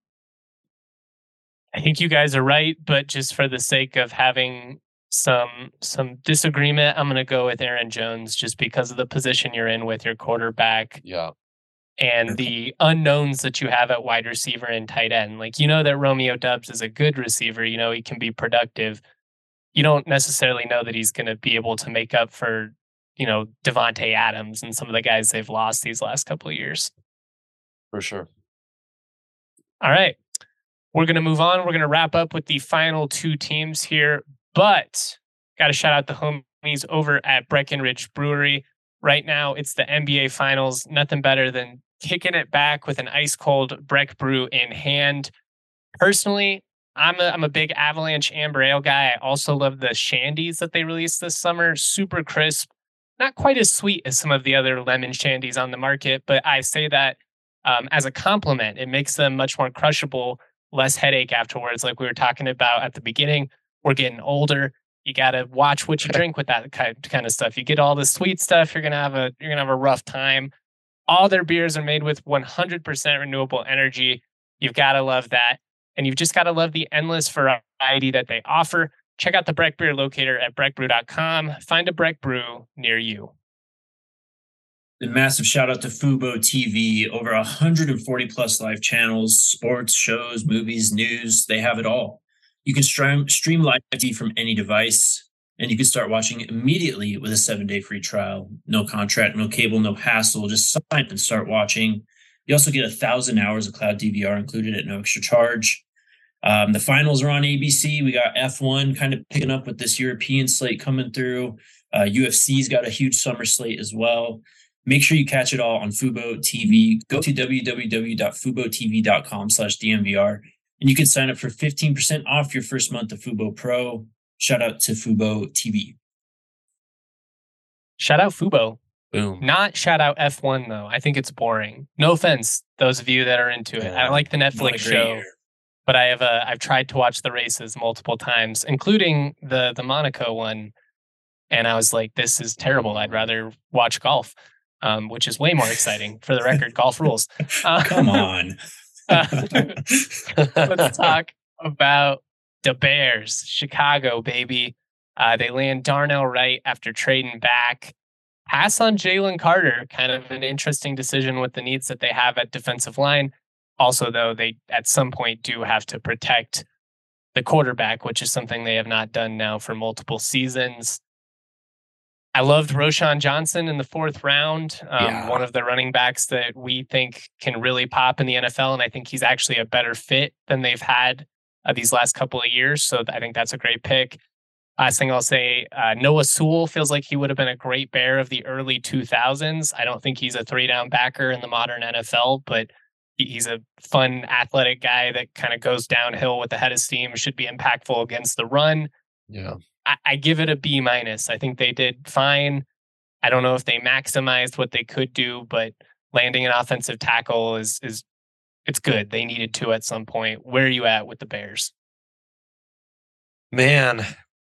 I think you guys are right, but just for the sake of having some some disagreement, I'm going to go with Aaron Jones just because of the position you're in with your quarterback. Yeah. And the unknowns that you have at wide receiver and tight end. Like, you know that Romeo Doubs is a good receiver. You know, he can be productive. You don't necessarily know that he's going to be able to make up for, you know, Devontae Adams and some of the guys they've lost these last couple of years. For sure. All right. We're going to move on. We're going to wrap up with the final two teams here. But got to shout out the homies over at Breckenridge Brewery. Right now, it's the N B A Finals. Nothing better than kicking it back with an ice cold Breck Brew in hand. Personally, I'm a, I'm a big Avalanche Amber Ale guy. I also love the shandies that they released this summer. Super crisp. Not quite as sweet as some of the other lemon shandies on the market, but I say that um, as a compliment. It makes them much more crushable, less headache afterwards, like we were talking about at the beginning. We're getting older. You got to watch what you drink with that kind of stuff. You get all the sweet stuff, you're going to have a you're going to have a rough time. All their beers are made with one hundred percent renewable energy. You've got to love that. And you've just got to love the endless variety that they offer. Check out the Breck Beer Locator at breck brew dot com. Find a Breck Brew near you. A massive shout out to Fubo T V. Over one hundred forty plus live channels, sports, shows, movies, news. They have it all. You can stream, stream live T V from any device, and you can start watching immediately with a seven-day free trial. No contract, no cable, no hassle. Just sign up and start watching. You also get one thousand hours of cloud D V R included at no extra charge. Um, the finals are on A B C. We got F one kind of picking up with this European slate coming through. Uh, U F C's got a huge summer slate as well. Make sure you catch it all on Fubo T V. Go to w w w dot fubo t v dot com slash d m v r. And you can sign up for fifteen percent off your first month of Fubo Pro. Shout out to Fubo T V. Shout out Fubo. Boom. Not shout out F one, though. I think it's boring. No offense, those of you that are into it. Yeah, I like the Netflix show, year. but I have uh, I've tried to watch the races multiple times, including the, the Monaco one. And I was like, this is terrible. I'd rather watch golf, um, which is way more exciting. For the record, golf rules. Uh, Come on. Uh, let's talk about the Bears. Chicago, baby. Uh, they land Darnell Wright after trading back. Pass on Jalen Carter. Kind of an interesting decision with the needs that they have at defensive line. Also, though, they at some point do have to protect the quarterback, which is something they have not done now for multiple seasons. I loved Roschon Johnson in the fourth round. Um, Yeah. One of the running backs that we think can really pop in the N F L. And I think he's actually a better fit than they've had uh, these last couple of years. So I think that's a great pick. Last thing I'll say, uh, Noah Sewell feels like he would have been a great Bear of the early two thousands. I don't think he's a three down backer in the modern N F L, but he's a fun, athletic guy that kind of goes downhill with the head of steam, should be impactful against the run. Yeah. I, I give it a B minus. I think they did fine. I don't know if they maximized what they could do, but landing an offensive tackle is is it's good. They needed to at some point. Where are you at with the Bears? Man,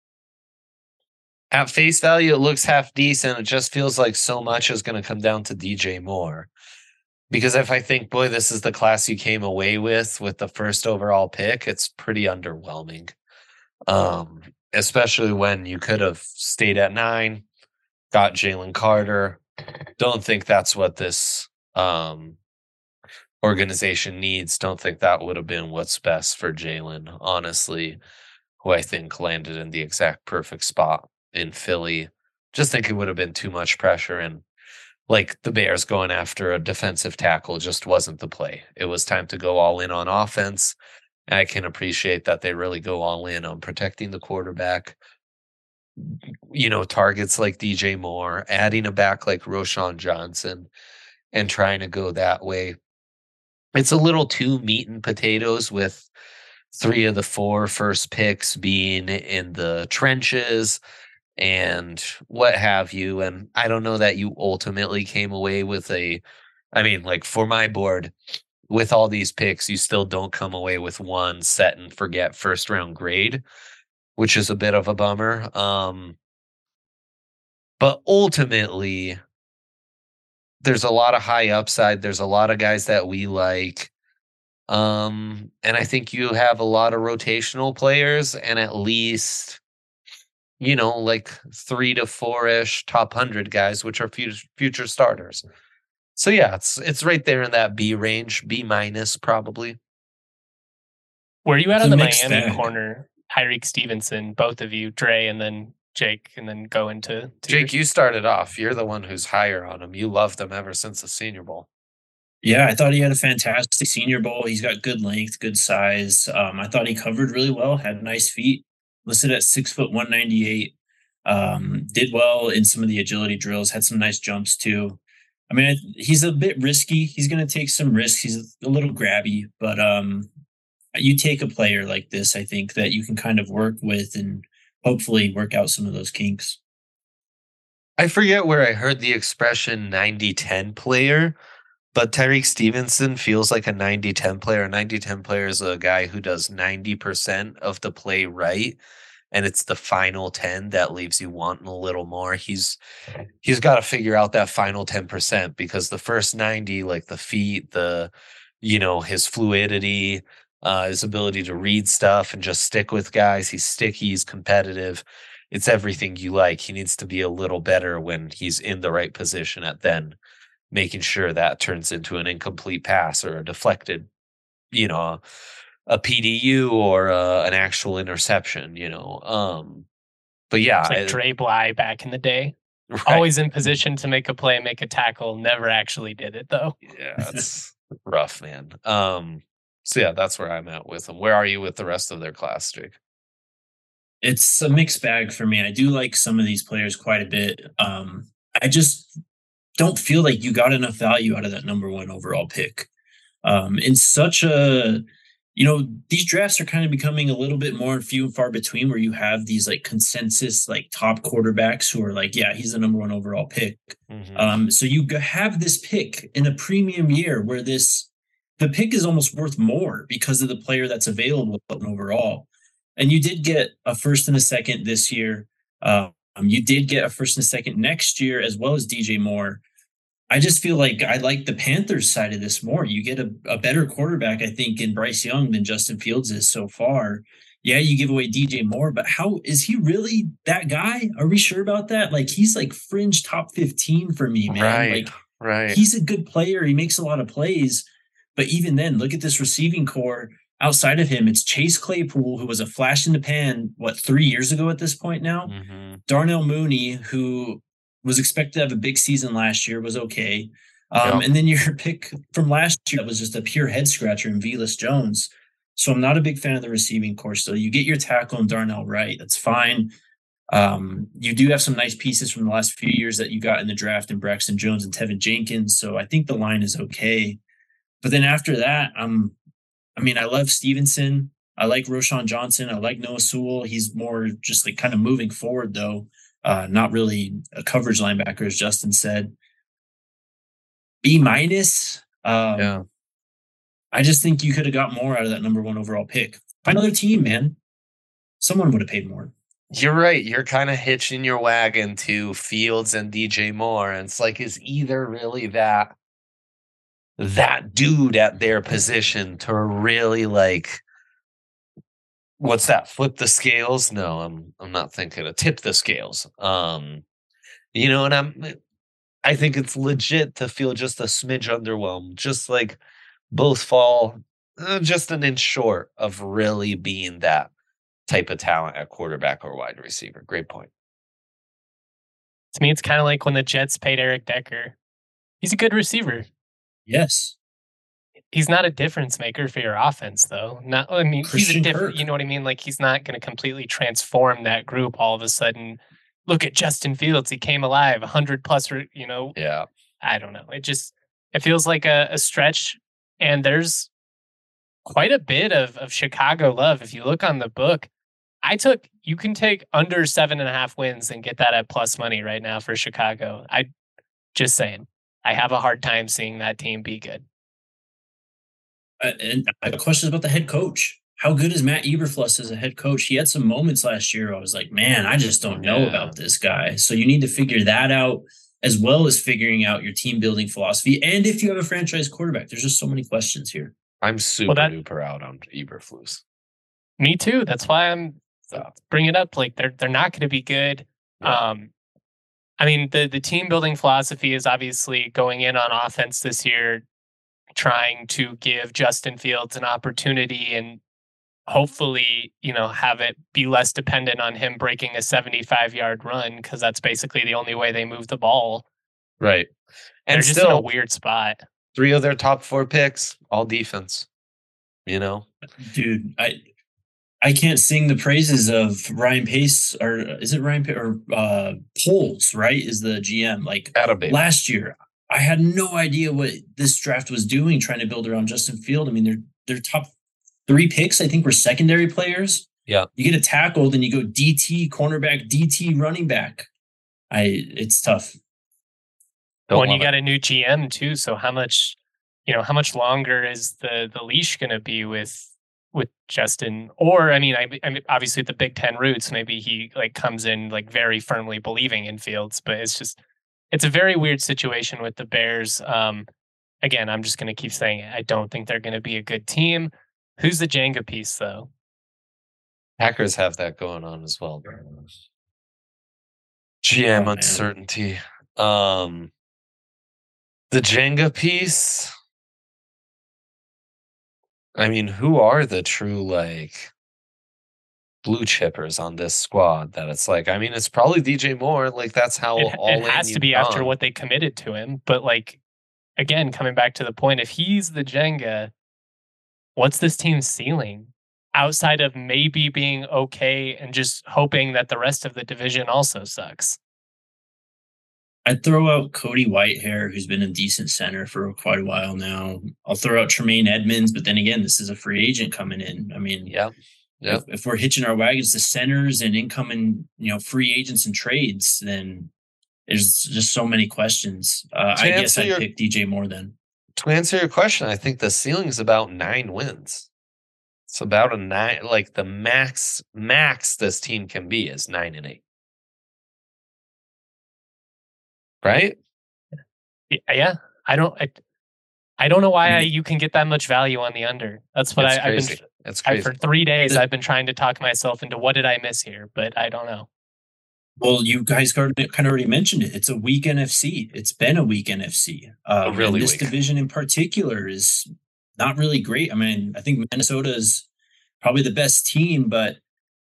at face value, it looks half decent. It just feels like so much is going to come down to D J Moore. Because if I think, boy, this is the class you came away with with the first overall pick, it's pretty underwhelming. Um, especially when you could have stayed at nine, got Jalen Carter. Don't think that's what this um, organization needs. Don't think that would have been what's best for Jalen, honestly, who I think landed in the exact perfect spot in Philly. Just think it would have been too much pressure, and like the Bears going after a defensive tackle just wasn't the play. It was time to go all in on offense. I can appreciate that they really go all in on protecting the quarterback. You know, targets like D J Moore, adding a back like Roschon Johnson, and trying to go that way. It's a little too meat and potatoes with three of the four first picks being in the trenches and what have you. And I don't know that you ultimately came away with a, I mean, like for my board, with all these picks, you still don't come away with one set and forget first round grade, which is a bit of a bummer. Um, but ultimately, there's a lot of high upside. There's a lot of guys that we like. Um, and I think you have a lot of rotational players and at least, you know, like three to four-ish top one hundred guys, which are future, future starters. So yeah, it's it's right there in that B range, B minus probably. Where are you at It's on a the mixed Miami bag. corner? Tyreek Stevenson, both of you, Dre, and then Jake, and then go into to Jake, yours. you started off. You're the one who's higher on him. You loved him ever since the Senior Bowl. Yeah, I thought he had a fantastic Senior Bowl. He's got good length, good size. Um, I thought he covered really well, had nice feet, listed at six foot one ninety eight. Um, did well in some of the agility drills, had some nice jumps too. I mean, I, he's a bit risky. He's going to take some risks. He's a little grabby, but um, you take a player like this, I think that you can kind of work with and hopefully work out some of those kinks. I forget where I heard the expression ninety ten player, but Tyreek Stevenson feels like a ninety ten player. A ninety ten player is a guy who does ninety percent of the play right, and it's the final ten that leaves you wanting a little more. He's he's got to figure out that final ten percent because the first ninety, like the feet, the, you know, his fluidity, uh, his ability to read stuff and just stick with guys. He's sticky, he's competitive. It's everything you like. He needs to be a little better when he's in the right position at then making sure that turns into an incomplete pass or a deflected, you know, a P D U or a, an actual interception, you know. Um, but yeah, It's like I- Dre Bly back in the day. right. Always in position to make a play, make a tackle. Never actually did it though. Yeah, it's rough, man. Um, so yeah, that's where I'm at with them. Where are you with the rest of their class, Jake? It's a mixed bag for me. I do like some of these players quite a bit. Um, I just don't feel like you got enough value out of that number one overall pick. Um, in such a, you know, these drafts are kind of becoming a little bit more few and far between where you have these like consensus, like top quarterbacks who are like, yeah, he's the number one overall pick. Mm-hmm. Um, so you g- have this pick in a premium year where this, the pick is almost worth more because of the player that's available overall. And you did get a first and a second this year. Um, you did get a first and a second next year, as well as D J Moore. I just feel like I like the Panthers side of this more. You get a, a better quarterback, I think, in Bryce Young than Justin Fields is so far. Yeah, you give away D J Moore, but how is he really that guy? Are we sure about that? Like, he's like fringe top fifteen for me, man. Right, Like, right. he's a good player. He makes a lot of plays. But even then, look at this receiving core. Outside of him, it's Chase Claypool, who was a flash in the pan, what, three years ago at this point now? Mm-hmm. Darnell Mooney, who was expected to have a big season last year, was okay. Um, Yep. And then your pick from last year that was just a pure head scratcher in Velus Jones. So I'm not a big fan of the receiving core still. You get your tackle in Darnell Wright. That's fine. Um, you do have some nice pieces from the last few years that you got in the draft in Braxton Jones and Tevin Jenkins. So I think the line is okay. But then after that, um, I mean, I love Stevenson. I like Roshan Johnson. I like Noah Sewell. He's more just like kind of moving forward, though. Uh, not really a coverage linebacker, as Justin said. B minus. Um, Yeah. I just think you could have got more out of that number one overall pick. Find another team, man. Someone would have paid more. You're right. You're kind of hitching your wagon to Fields and D J Moore. And it's like, is either really that that dude at their position to really like what's that? Flip the scales? No, I'm I'm not thinking to tip the scales. Um, you know, and I'm I think it's legit to feel just a smidge underwhelmed, just like both fall uh, just an inch short of really being that type of talent at quarterback or wide receiver. Great point. To me, it's kind of like when the Jets paid Eric Decker. He's a good receiver. Yes. He's not a difference maker for your offense, though. Not, I mean, Christian he's a different. Kirk. You know what I mean? Like he's not going to completely transform that group all of a sudden. Look at Justin Fields; he came alive, one hundred plus. You know, Yeah. I don't know. It just it feels like a, a stretch, and there's quite a bit of of Chicago love. If you look on the book, I took you can take under seven and a half wins and get that at plus money right now for Chicago. I just saying, I have a hard time seeing that team be good. Uh, and I have questions about the head coach. How good is Matt Eberflus as a head coach? He had some moments last year. I was like, man, I just don't know Yeah. about this guy. So you need to figure that out, as well as figuring out your team building philosophy. And if you have a franchise quarterback, there's just so many questions here. I'm super that- duper out on Eberflus. Me too. That's why I'm bringing it up. Like they're they're not going to be good. Yeah. Um, I mean, the the team building philosophy is obviously going in on offense this year, trying to give Justin Fields an opportunity and hopefully, you know, have it be less dependent on him breaking a seventy-five yard run, because that's basically the only way they move the ball. Right. They're And just still, in a weird spot. three of their top four picks, all defense. You know? Dude, I I can't sing the praises of Ryan Pace, or is it Ryan Pace or uh Poles, right? Is the G M. Like Attaboy. last year, I had no idea what this draft was doing, trying to build around Justin Field. I mean, their their top three picks, I think, were secondary players. Yeah. You get a tackle, then you go D T, cornerback, D T, running back. I it's tough. Don't Well, and you love got it. a new G M too. So how much, you know, how much longer is the the leash going to be with with Justin? Or I mean, I, I mean, obviously the Big Ten roots. Maybe he like comes in like very firmly believing in Fields, but it's just it's a very weird situation with the Bears. Um, again, I'm just going to keep saying it. I don't think they're going to be a good team. Who's the Jenga piece though? Packers have that going on as well. G M Oh, man. uncertainty. Um, the Jenga piece. I mean, who are the true like blue chippers on this squad? That it's like, I mean, it's probably D J Moore. Like that's how It, all it has in to be you've after gone. what they committed to him. But like, again, coming back to the point, if he's the Jenga, what's this team's ceiling outside of maybe being okay and just hoping that the rest of the division also sucks? I'd throw out Cody Whitehair, who's been a decent center for quite a while now. I'll throw out Tremaine Edmonds, but then again, this is a free agent coming in. I mean, Yeah. Yep. if, if we're hitching our wagons to centers and incoming, you know, free agents and trades, then there's just so many questions. Uh, To I guess answer I'd your- pick D J Moore then. To answer your question, I think the ceiling is about nine wins. It's about a nine, like the max max this team can be is nine and eight. Right? Y- Yeah, I don't. I, I don't know why I, you can get that much value on the under. That's what It's I, I've been. crazy. It's I, crazy. for three days, The- I've been trying to talk myself into what did I miss here, but I don't know. Well, you guys kind of already mentioned it. It's a weak N F C. It's been a weak N F C. Um, A really and this weak. division in particular is not really great. I mean, I think Minnesota is probably the best team, but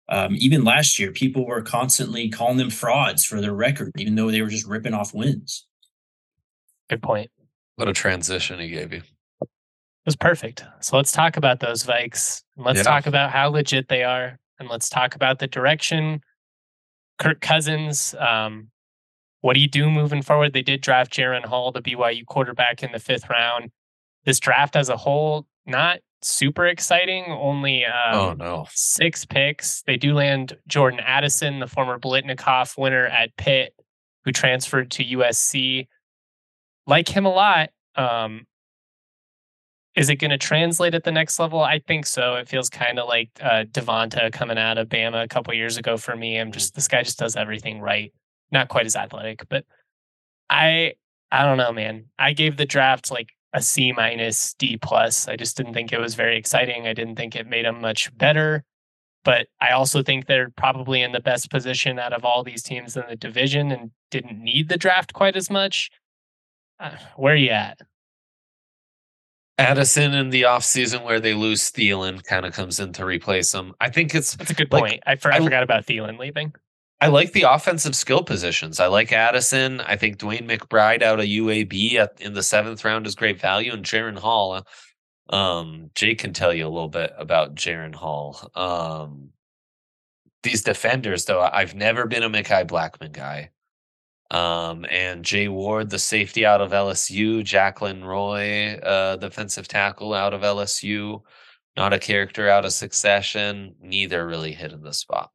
Um, even last year, people were constantly calling them frauds for their record, even though they were just ripping off wins. Good point. What a transition he gave you. It was perfect. So let's talk about those Vikes. And let's Yeah. talk about how legit they are. And let's talk about the direction. Kirk Cousins, um, what do you do moving forward? They did draft Jaren Hall, the B Y U quarterback, in the fifth round. This draft as a whole, not super exciting. Only um, Oh, no. six picks. They do land Jordan Addison, the former Blitnikoff winner at Pitt, who transferred to U S C. Like him a lot. Um, is it going to translate at the next level? I think so. It feels kind of like uh, Devonta coming out of Bama a couple years ago for me. I'm just, this guy just does everything right. Not quite as athletic, but I, I don't know, man. I gave the draft like a C minus, D plus. I just didn't think it was very exciting. I didn't think it made them much better. But I also think they're probably in the best position out of all these teams in the division and didn't need the draft quite as much. Uh, where are you at? Addison in the offseason where they lose Thielen kind of comes in to replace him. I think it's That's a good like, point. I, for, I I- forgot about Thielen leaving. I like the offensive skill positions. I like Addison. I think Dwayne McBride out of U A B at, in the seventh round is great value. And Jaren Hall, um, Jake can tell you a little bit about Jaren Hall. Um, these defenders, though, I've never been a Mekhi Blackman guy. Um, and Jay Ward, the safety out of L S U, Jacqueline Roy, uh, defensive tackle out of L S U, not a character out of Succession. Neither really hit in the spot.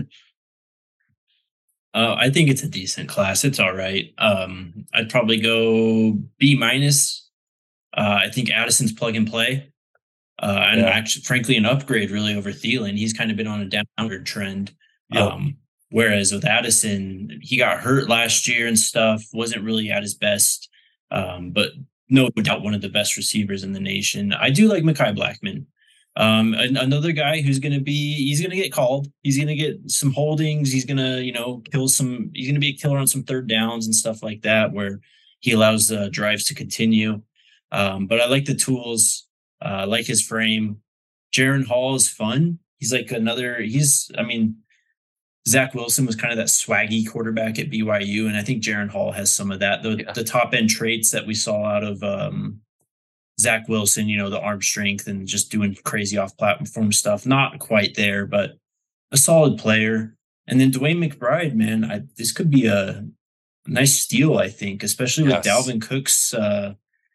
Uh, I think it's a decent class. It's all right. Um, I'd probably go B minus. Uh, I think Addison's plug and play, uh, and Yeah. actually, frankly, an upgrade really over Thielen. He's kind of been on a downward trend. Yep. Um, whereas with Addison, he got hurt last year and stuff. Wasn't really at his best, um, but no doubt one of the best receivers in the nation. I do like Mekhi Blackman. Um, an- another guy who's going to be, he's going to get called. He's going to get some holdings. He's going to, you know, kill some, he's going to be a killer on some third downs and stuff like that, where he allows the drives to continue. Um, but I like the tools, uh, I like his frame. Jaren Hall is fun. He's like another, he's, I mean, Zach Wilson was kind of that swaggy quarterback at B Y U. And I think Jaren Hall has some of that, the, Yeah. the top end traits that we saw out of, um, Zach Wilson, you know, the arm strength and just doing crazy off platform stuff. Not quite there, but a solid player. And then Dwayne McBride, man, I, this could be a nice steal, I think, especially with Yes. Dalvin Cook's uh,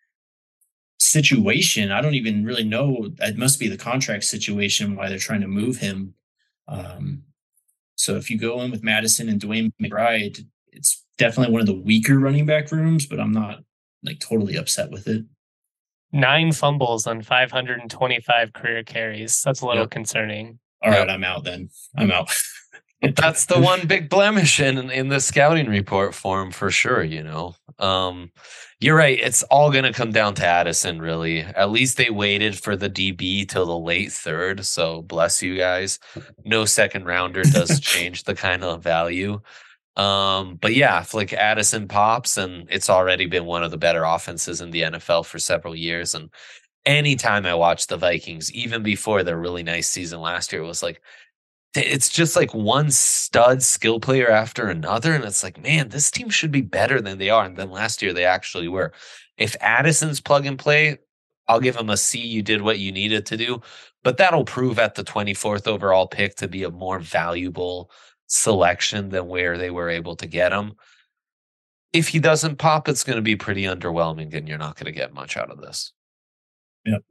situation. I don't even really know. It must be the contract situation why they're trying to move him. Um, so if you go in with Madison and Dwayne McBride, it's definitely one of the weaker running back rooms, but I'm not like totally upset with it. Nine fumbles on five hundred twenty-five career carries. That's a little Yep. concerning. All Yep. right, I'm out then. I'm out. That's the one big blemish in in the scouting report for him for sure, you know. Um, you're right. It's all going to come down to Addison, really. At least they waited for the D B till the late third, so bless you guys. No second rounder does change the kind of value. Um, but yeah, if like Addison pops, and it's already been one of the better offenses in the N F L for several years. And anytime I watch the Vikings, even before their really nice season last year, it was like, it's just like one stud skill player after another. And it's like, man, this team should be better than they are. And then last year they actually were. If Addison's plug and play, I'll give him a C. You did what you needed to do. But that'll prove at the twenty-fourth overall pick to be a more valuable selection than where they were able to get him. If he doesn't pop, it's going to be pretty underwhelming, and you're not going to get much out of this. Yep.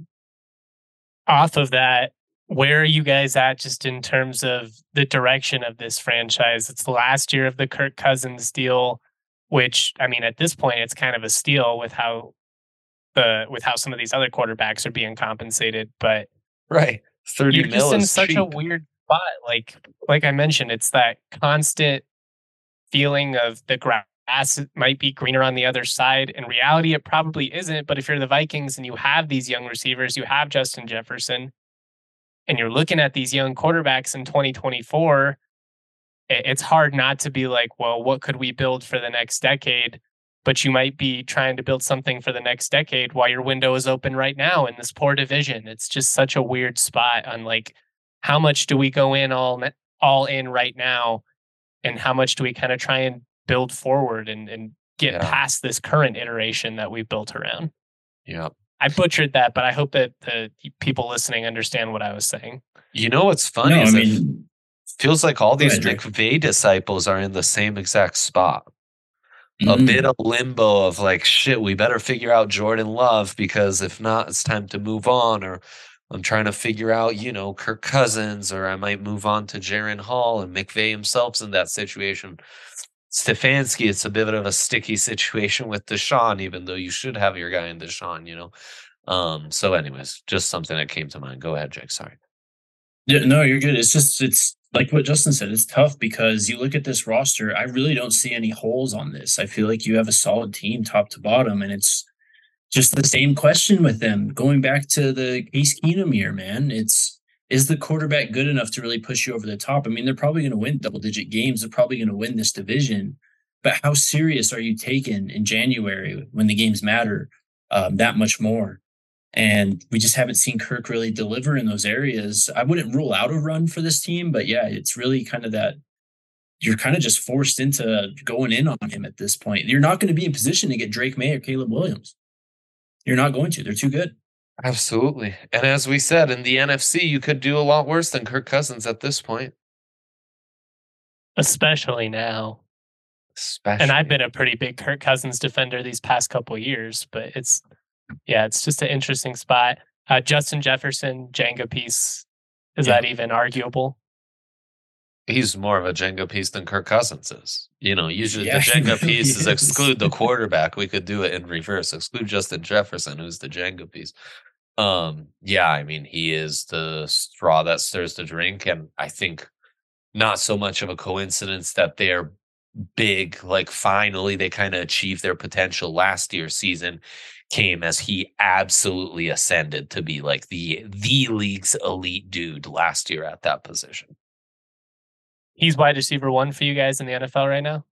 Off of that, where are you guys at just in terms of the direction of this franchise? It's the last year of the Kirk Cousins deal, which, I mean, at this point, it's kind of a steal with how the with how some of these other quarterbacks are being compensated. But Right. thirty you're mil just in is such cheap. a weird spot. Like, like I mentioned, it's that constant feeling of the grass might be greener on the other side. In reality, it probably isn't. But if you're the Vikings and you have these young receivers, you have Justin Jefferson, and you're looking at these young quarterbacks in twenty twenty-four, it's hard not to be like, well, what could we build for the next decade? But you might be trying to build something for the next decade while your window is open right now in this poor division. It's just such a weird spot on like, how much do we go in all all in right now, and how much do we kind of try and build forward and, and get Yeah. past this current iteration that we built around? Yep. I butchered that, but I hope that the people listening understand what I was saying. You know what's funny No, I is it mean, feels like all Go these ahead, Drake. McVay disciples are in the same exact spot. A mm, bit of limbo of like, shit, we better figure out Jordan Love, because if not, it's time to move on. Or I'm trying to figure out, you know, Kirk Cousins, or I might move on to Jaren Hall, and McVay himself's in that situation. Stefanski, it's a bit of a sticky situation with Deshaun, even though you should have your guy in Deshaun, you know. Um, so anyways, just something that came to mind. Go ahead, Jake. Sorry. Yeah, no, you're good. It's just it's like what Justin said. It's tough because you look at this roster. I really don't see any holes on this. I feel like you have a solid team, top to bottom, and it's just the same question with them. Going back to the Case Keenum year, man, it's is the quarterback good enough to really push you over the top? I mean, they're probably going to win double digit games. They're probably going to win this division, but how serious are you taken in January when the games matter um, that much more? And we just haven't seen Kirk really deliver in those areas. I wouldn't rule out a run for this team, but yeah, it's really kind of that you're kind of just forced into going in on him at this point. You're not going to be in position to get Drake May or Caleb Williams. You're not going to. They're too good. Absolutely. And as we said, in the N F C, you could do a lot worse than Kirk Cousins at this point. Especially now. Especially. And I've been a pretty big Kirk Cousins defender these past couple of years, but it's, yeah, it's just an interesting spot. Uh, Justin Jefferson, Jenga piece. Is Yeah. that even arguable? He's more of a Jenga piece than Kirk Cousins is. You know, usually Yeah, the he Jenga really piece is is. exclude the quarterback. We could do it in reverse. Exclude Justin Jefferson, who's the Jenga piece. Um, yeah, I mean, he is the straw that stirs the drink. And I think not so much of a coincidence that they're big, like finally they kind of achieved their potential last year's season came as he absolutely ascended to be like the the league's elite dude last year at that position. He's wide receiver one for you guys in the N F L right now?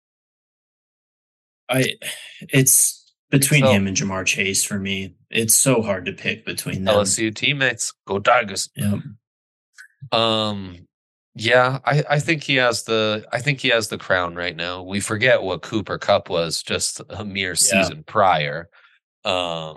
I it's between So- him and Jamar Chase for me. It's so hard to pick between them. L S U teammates, go Tigers. Yeah. Um, yeah, I, I think he has the I think he has the crown right now. We forget what Cooper Cup was just a mere season prior. Um,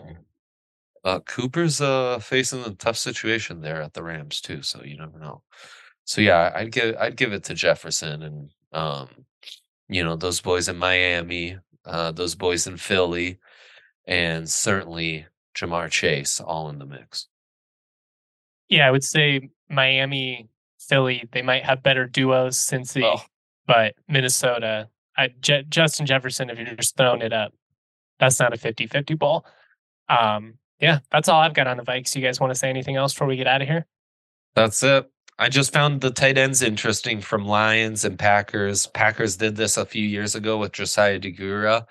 uh, Cooper's uh facing a tough situation there at the Rams too, so you never know. So yeah, I'd give I'd give it to Jefferson and um, you know, those boys in Miami, uh, those boys in Philly, and certainly Jamar Chase all in the mix. Yeah, I would say Miami, Philly, they might have better duos since the, Oh. but Minnesota, I, Je- Justin Jefferson, if you're just throwing it up, that's not a fifty-fifty ball. Um, yeah, that's all I've got on the Vikes. You guys want to say anything else before we get out of here? That's it. I just found the tight ends interesting from Lions and Packers. Packers did this a few years ago with Josiah DeGura,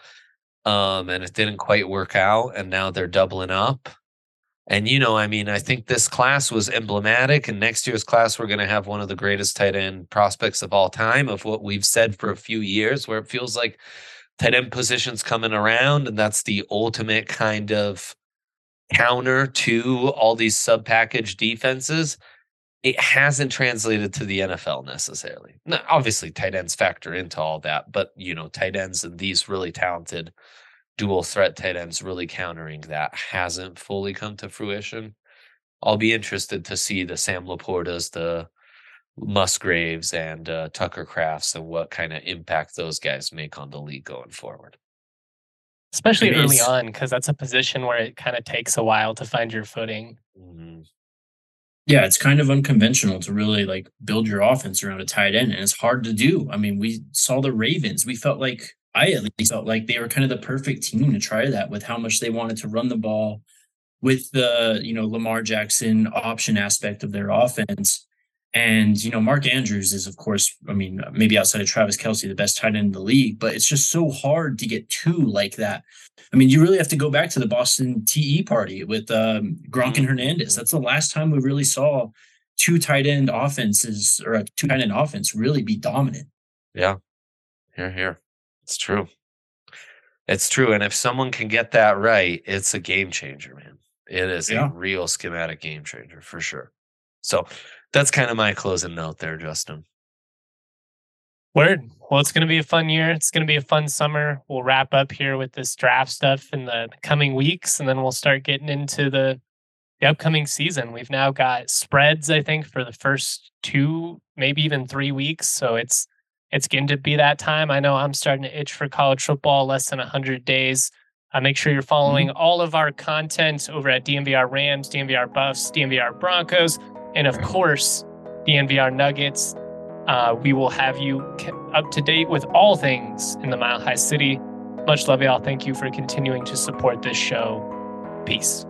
um, and it didn't quite work out, and now they're doubling up. And, you know, I mean, I think this class was emblematic, and next year's class, we're going to have one of the greatest tight end prospects of all time, of what we've said for a few years, where it feels like tight end positions coming around, and that's the ultimate kind of counter to all these sub-package defenses. It hasn't translated to the N F L necessarily. Now, obviously, tight ends factor into all that, but, you know, tight ends and these really talented dual threat tight ends really countering that hasn't fully come to fruition. I'll be interested to see the Sam Laportas, the Musgraves, and uh, Tucker Crafts, and what kind of impact those guys make on the league going forward. Especially It early is. on, because that's a position where it kind of takes a while to find your footing. Mm-hmm. Yeah, it's kind of unconventional to really like build your offense around a tight end, and it's hard to do. I mean, we saw the Ravens. We felt like I at least felt like they were kind of the perfect team to try that with how much they wanted to run the ball, with the you know Lamar Jackson option aspect of their offense. And you know Mark Andrews is, of course, I mean, maybe outside of Travis Kelce, the best tight end in the league, but it's just so hard to get two like that. I mean, you really have to go back to the Boston T E party with um, Gronk and Hernandez. That's the last time we really saw two tight end offenses or a two tight end offense really be dominant. Yeah, here, here. It's true. It's true. And if someone can get that right, it's a game changer, man. It is Yeah. a real schematic game changer for sure. So that's kind of my closing note there, Justin. Word. Well, it's going to be a fun year. It's going to be a fun summer. We'll wrap up here with this draft stuff in the coming weeks, and then we'll start getting into the, the upcoming season. We've now got spreads, I think, for the first two, maybe even three weeks. So it's it's going to be that time. I know I'm starting to itch for college football. Less than one hundred days. Uh, make sure you're following mm-hmm. all of our content over at D N V R Rams, D N V R Buffs, D N V R Broncos, and of course, D N V R Nuggets. Uh, we will have you up to date with all things in the Mile High City. Much love, y'all. Thank you for continuing to support this show. Peace.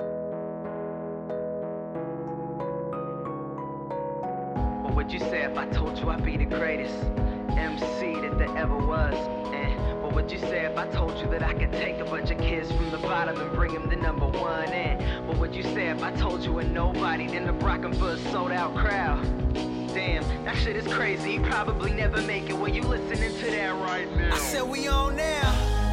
What would you say if I told you I'd be the greatest M C that there ever was? And what would you say if I told you that I could take a bunch of kids from the bottom and bring them to number one? And what would you say if I told you a nobody then the rockin' for a sold out crowd? Damn, that shit is crazy. You probably never make it when you listening to that right now. I said we on now.